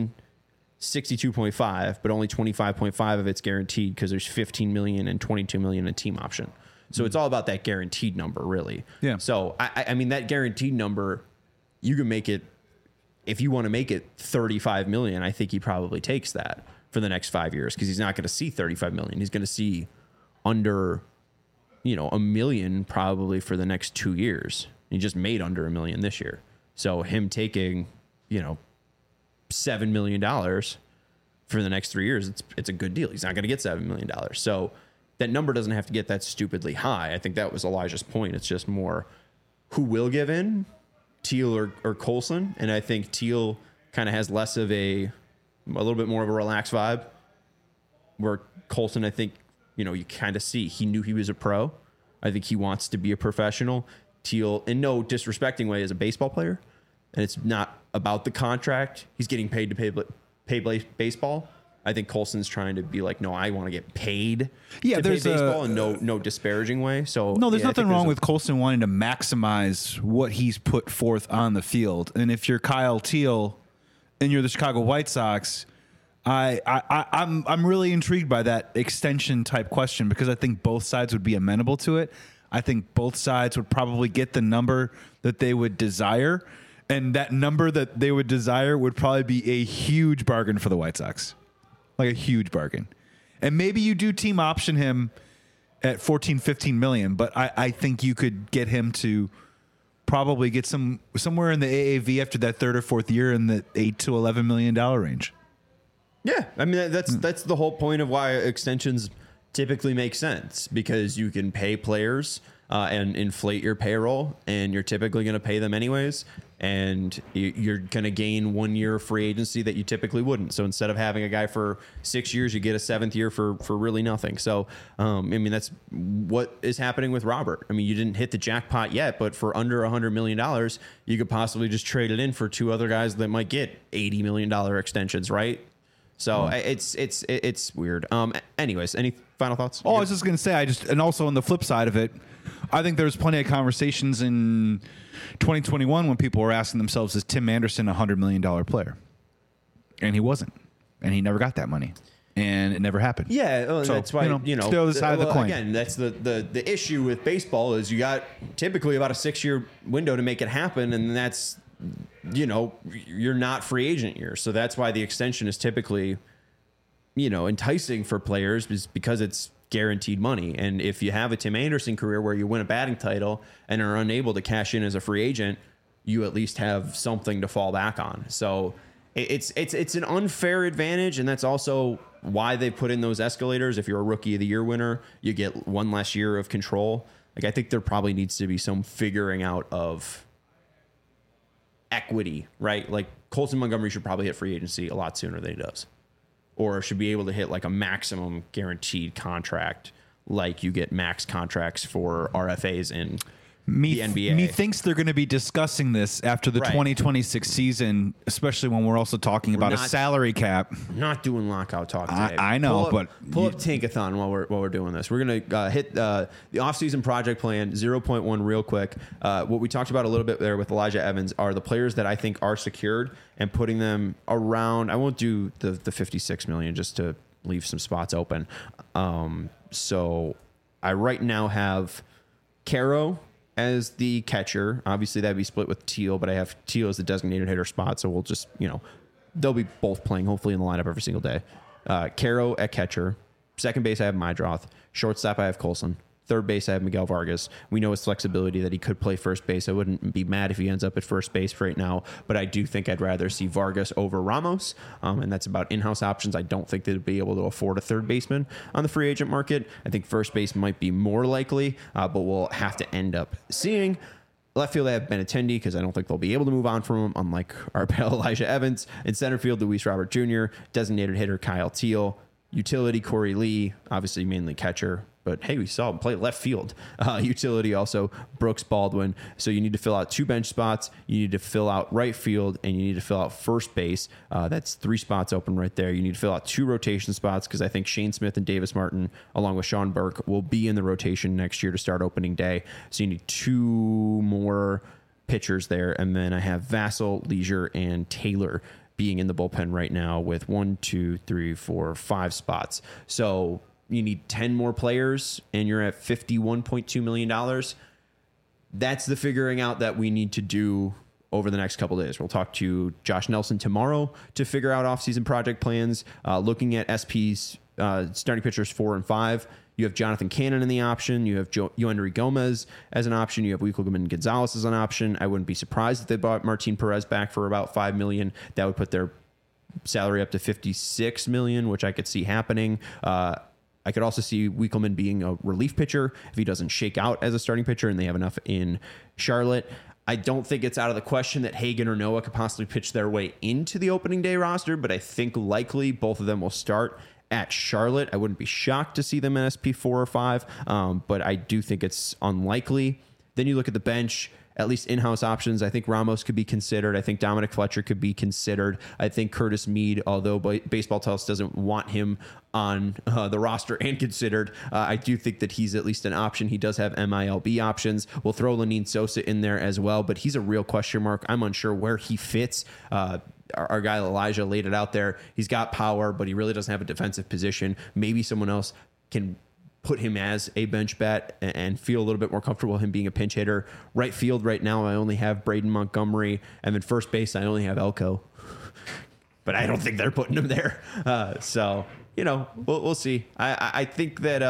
Speaker 1: 762.5, but only 25.5 of it's guaranteed because there's 15 million and 22 million in team option. So it's all about that guaranteed number, really.
Speaker 2: Yeah.
Speaker 1: So I mean, that guaranteed number, you can make it, if you want to make it 35 million. I think he probably takes that for the next 5 years because he's not going to see 35 million. He's going to see under, you know, 1 million probably for the next 2 years. He just made under 1 million this year. So him taking, you know, $7 million for the next 3 years, it's a good deal. He's not going to get $7 million. So that number doesn't have to get that stupidly high. I think that was Elijah's point. It's just more who will give in, Teal or Colson. And I think Teal kind of has less of a little bit more of a relaxed vibe, where Colson, I think, you know, you kind of see he knew he was a pro. I think he wants to be a professional. Teal, in no disrespecting way, is a baseball player, and it's not about the contract. He's getting paid to play baseball. I think Colson's trying to be like, no, I want to get paid
Speaker 2: Yeah,
Speaker 1: to play
Speaker 2: there's
Speaker 1: baseball in no disparaging way. So
Speaker 2: No, there's
Speaker 1: yeah, I
Speaker 2: nothing
Speaker 1: think
Speaker 2: wrong
Speaker 1: there's
Speaker 2: with Colson wanting to maximize what he's put forth on the field. And if you're Kyle Teal and you're the Chicago White Sox, I'm really intrigued by that extension type question because I think both sides would be amenable to it. I think both sides would probably get the number that they would desire, and that number that they would desire would probably be a huge bargain for the White Sox, like a huge bargain. And maybe you do team option him at 14, 15 million, but I think you could get him to probably get somewhere in the AAV after that third or fourth year in the $8 to $11 million range.
Speaker 1: Yeah, I mean that's the whole point of why extensions typically make sense, because you can pay players and inflate your payroll, and you're typically going to pay them anyways, and you're going to gain 1 year free agency that you typically wouldn't. So instead of having a guy for 6 years, you get a 7th year for really nothing. So I mean, that's what is happening with Robert. I mean, you didn't hit the jackpot yet, but for under $100 million, you could possibly just trade it in for 2 other guys that might get $80 million extensions, right? So it's weird. Anyways, any final thoughts?
Speaker 2: Oh, I was just going to say, and also on the flip side of it, I think there's plenty of conversations in 2021 when people were asking themselves, is Tim Anderson a $100 million player? And he wasn't. And he never got that money. And it never happened.
Speaker 1: Yeah, well,
Speaker 2: So,
Speaker 1: that's why, you know,
Speaker 2: it's the other side of the coin.
Speaker 1: Again, that's the issue with baseball is you got typically about a 6-year window to make it happen, and that's, you know, you're not free agent year. So that's why the extension is typically, you know, enticing for players, is because it's guaranteed money. And if you have a Tim Anderson career where you win a batting title and are unable to cash in as a free agent, you at least have something to fall back on. So it's an unfair advantage, and that's also why they put in those escalators. If you're a Rookie of the Year winner, you get 1 less year of control. Like, I think there probably needs to be some figuring out of equity, right? Like, Colson Montgomery should probably hit free agency a lot sooner than he does, or should be able to hit like a maximum guaranteed contract, like you get max contracts for RFAs in the NBA.
Speaker 2: Methinks they're going to be discussing this after the
Speaker 1: Right.
Speaker 2: 2026 season, especially when we're also talking about a
Speaker 1: not-
Speaker 2: salary cap.
Speaker 1: Not doing lockout talk today.
Speaker 2: I know, but
Speaker 1: pull up Tankathon while we're doing this. We're gonna hit the offseason project plan 0.1 real quick. What we talked about a little bit there with Elijah Evans are the players that I think are secured, and putting them around. I won't do the 56 million just to leave some spots open. So I right now have Caro as the catcher. Obviously that'd be split with Teal, but I have Teal as the designated hitter spot, so we'll just, you know, they'll be both playing hopefully in the lineup every single day. Caro at catcher. Second base I have Mydroth. Shortstop I have Colson. Third base, I have Miguel Vargas. We know his flexibility that he could play first base. I wouldn't be mad if he ends up at first base right now, but I do think I'd rather see Vargas over Ramos, and that's about in-house options. I don't think they'd be able to afford a third baseman on the free agent market. I think first base might be more likely, but we'll have to end up seeing. Left field, I have Benintendi because I don't think they'll be able to move on from him, unlike our pal Elijah Evans. In center field, Luis Robert Jr., designated hitter Kyle Teal, utility Corey Lee, obviously mainly catcher, but hey, we saw him play left field. Utility also Brooks Baldwin. So you need to fill out 2 bench spots. You need to fill out right field, and you need to fill out first base. That's 3 spots open right there. You need to fill out 2 rotation spots because I think Shane Smith and Davis Martin, along with Sean Burke, will be in the rotation next year to start opening day. So you need 2 more pitchers there. And then I have Vassell, Leisure, and Taylor being in the bullpen right now with 1, 2, 3, 4, 5 spots. So you need 10 more players, and you're at $51.2 million. That's the figuring out that we need to do over the next couple of days. We'll talk to Josh Nelson tomorrow to figure out offseason project plans, looking at SP's starting pitchers 4 and 5. You have Jonathan Cannon in the option. You have Yoendry Gomez as an option. You have Wikelman Gonzalez as an option. I wouldn't be surprised if they bought Martin Perez back for about $5 million. That would put their salary up to $56 million, which I could see happening. I could also see Wikelman being a relief pitcher if he doesn't shake out as a starting pitcher and they have enough in Charlotte. I don't think it's out of the question that Hagen or Noah could possibly pitch their way into the opening day roster, but I think likely both of them will start at Charlotte. I wouldn't be shocked to see them in SP 4 or 5, but I do think it's unlikely. Then you look at the bench, at least in-house options. I think Ramos could be considered. I think Dominic Fletcher could be considered. I think Curtis Mead, although Baseball Tells doesn't want him on the roster and considered, I do think that he's at least an option. He does have MILB options. We'll throw Lenyn Sosa in there as well, but he's a real question mark. I'm unsure where he fits. Our guy Elijah laid it out there. He's got power, but he really doesn't have a defensive position. Maybe someone else can put him as a bench bat and feel a little bit more comfortable him being a pinch hitter. Right field right now, I only have Braden Montgomery, and then first base, I only have Elko. But I don't think they're putting him there. So, you know, we'll see. I think that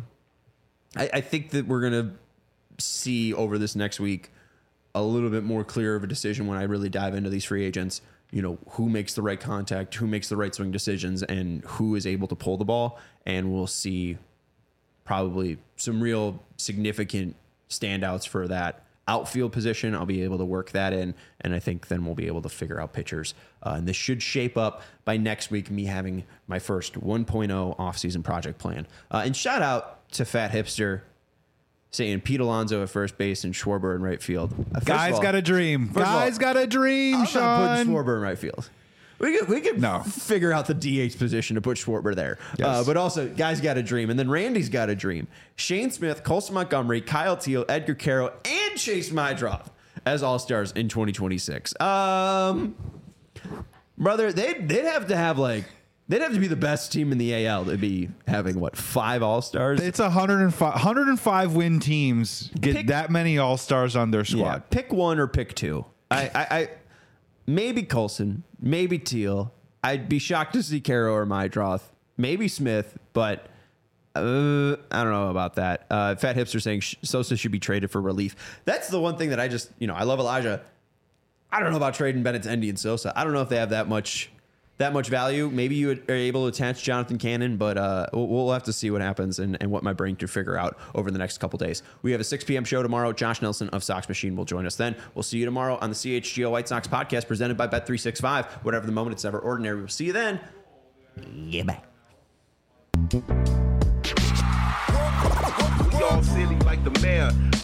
Speaker 1: I think that we're gonna see over this next week a little bit more clear of a decision when I really dive into these free agents. You know, who makes the right contact, who makes the right swing decisions, and who is able to pull the ball. And we'll see probably some real significant standouts for that outfield position. I'll be able to work that in, and I think then we'll be able to figure out pitchers. And this should shape up by next week, me having my first 1.0 offseason project plan. And shout out to Fat Hipster saying Pete Alonso at first base and Schwarber in right field.
Speaker 2: Guys got a dream. Guys got a dream, Sean.
Speaker 1: I'm putting Schwarber in right field. We could figure out the DH position to put Schwarber there. Yes. But also, guys got a dream. And then Randy's got a dream. Shane Smith, Colson Montgomery, Kyle Teal, Edgar Caro, and Chase Mydroth as All-Stars in 2026. Brother, they'd have to have they'd have to be the best team in the AL to be having, 5 All-Stars?
Speaker 2: It's 105 win teams get that many All-Stars on their squad.
Speaker 1: Yeah, pick one or pick two. I maybe Colson, maybe Teal. I'd be shocked to see Caro or Mydroth. Maybe Smith, but I don't know about that. Fat Hipster saying Sosa should be traded for relief. That's the one thing that I just, I love Elijah. I don't know about trading Benintendi and Sosa. I don't know if they have that much value. Maybe you are able to attach Jonathan Cannon, but we'll have to see what happens and what my brain can figure out over the next couple days. We have a 6 p.m. show tomorrow. Josh Nelson of Sox Machine will join us then. We'll see you tomorrow on the CHGO White Sox podcast presented by Bet365. Whatever the moment, it's never ordinary. We'll see you then. Yeah, bye.
Speaker 4: We all silly like the mayor.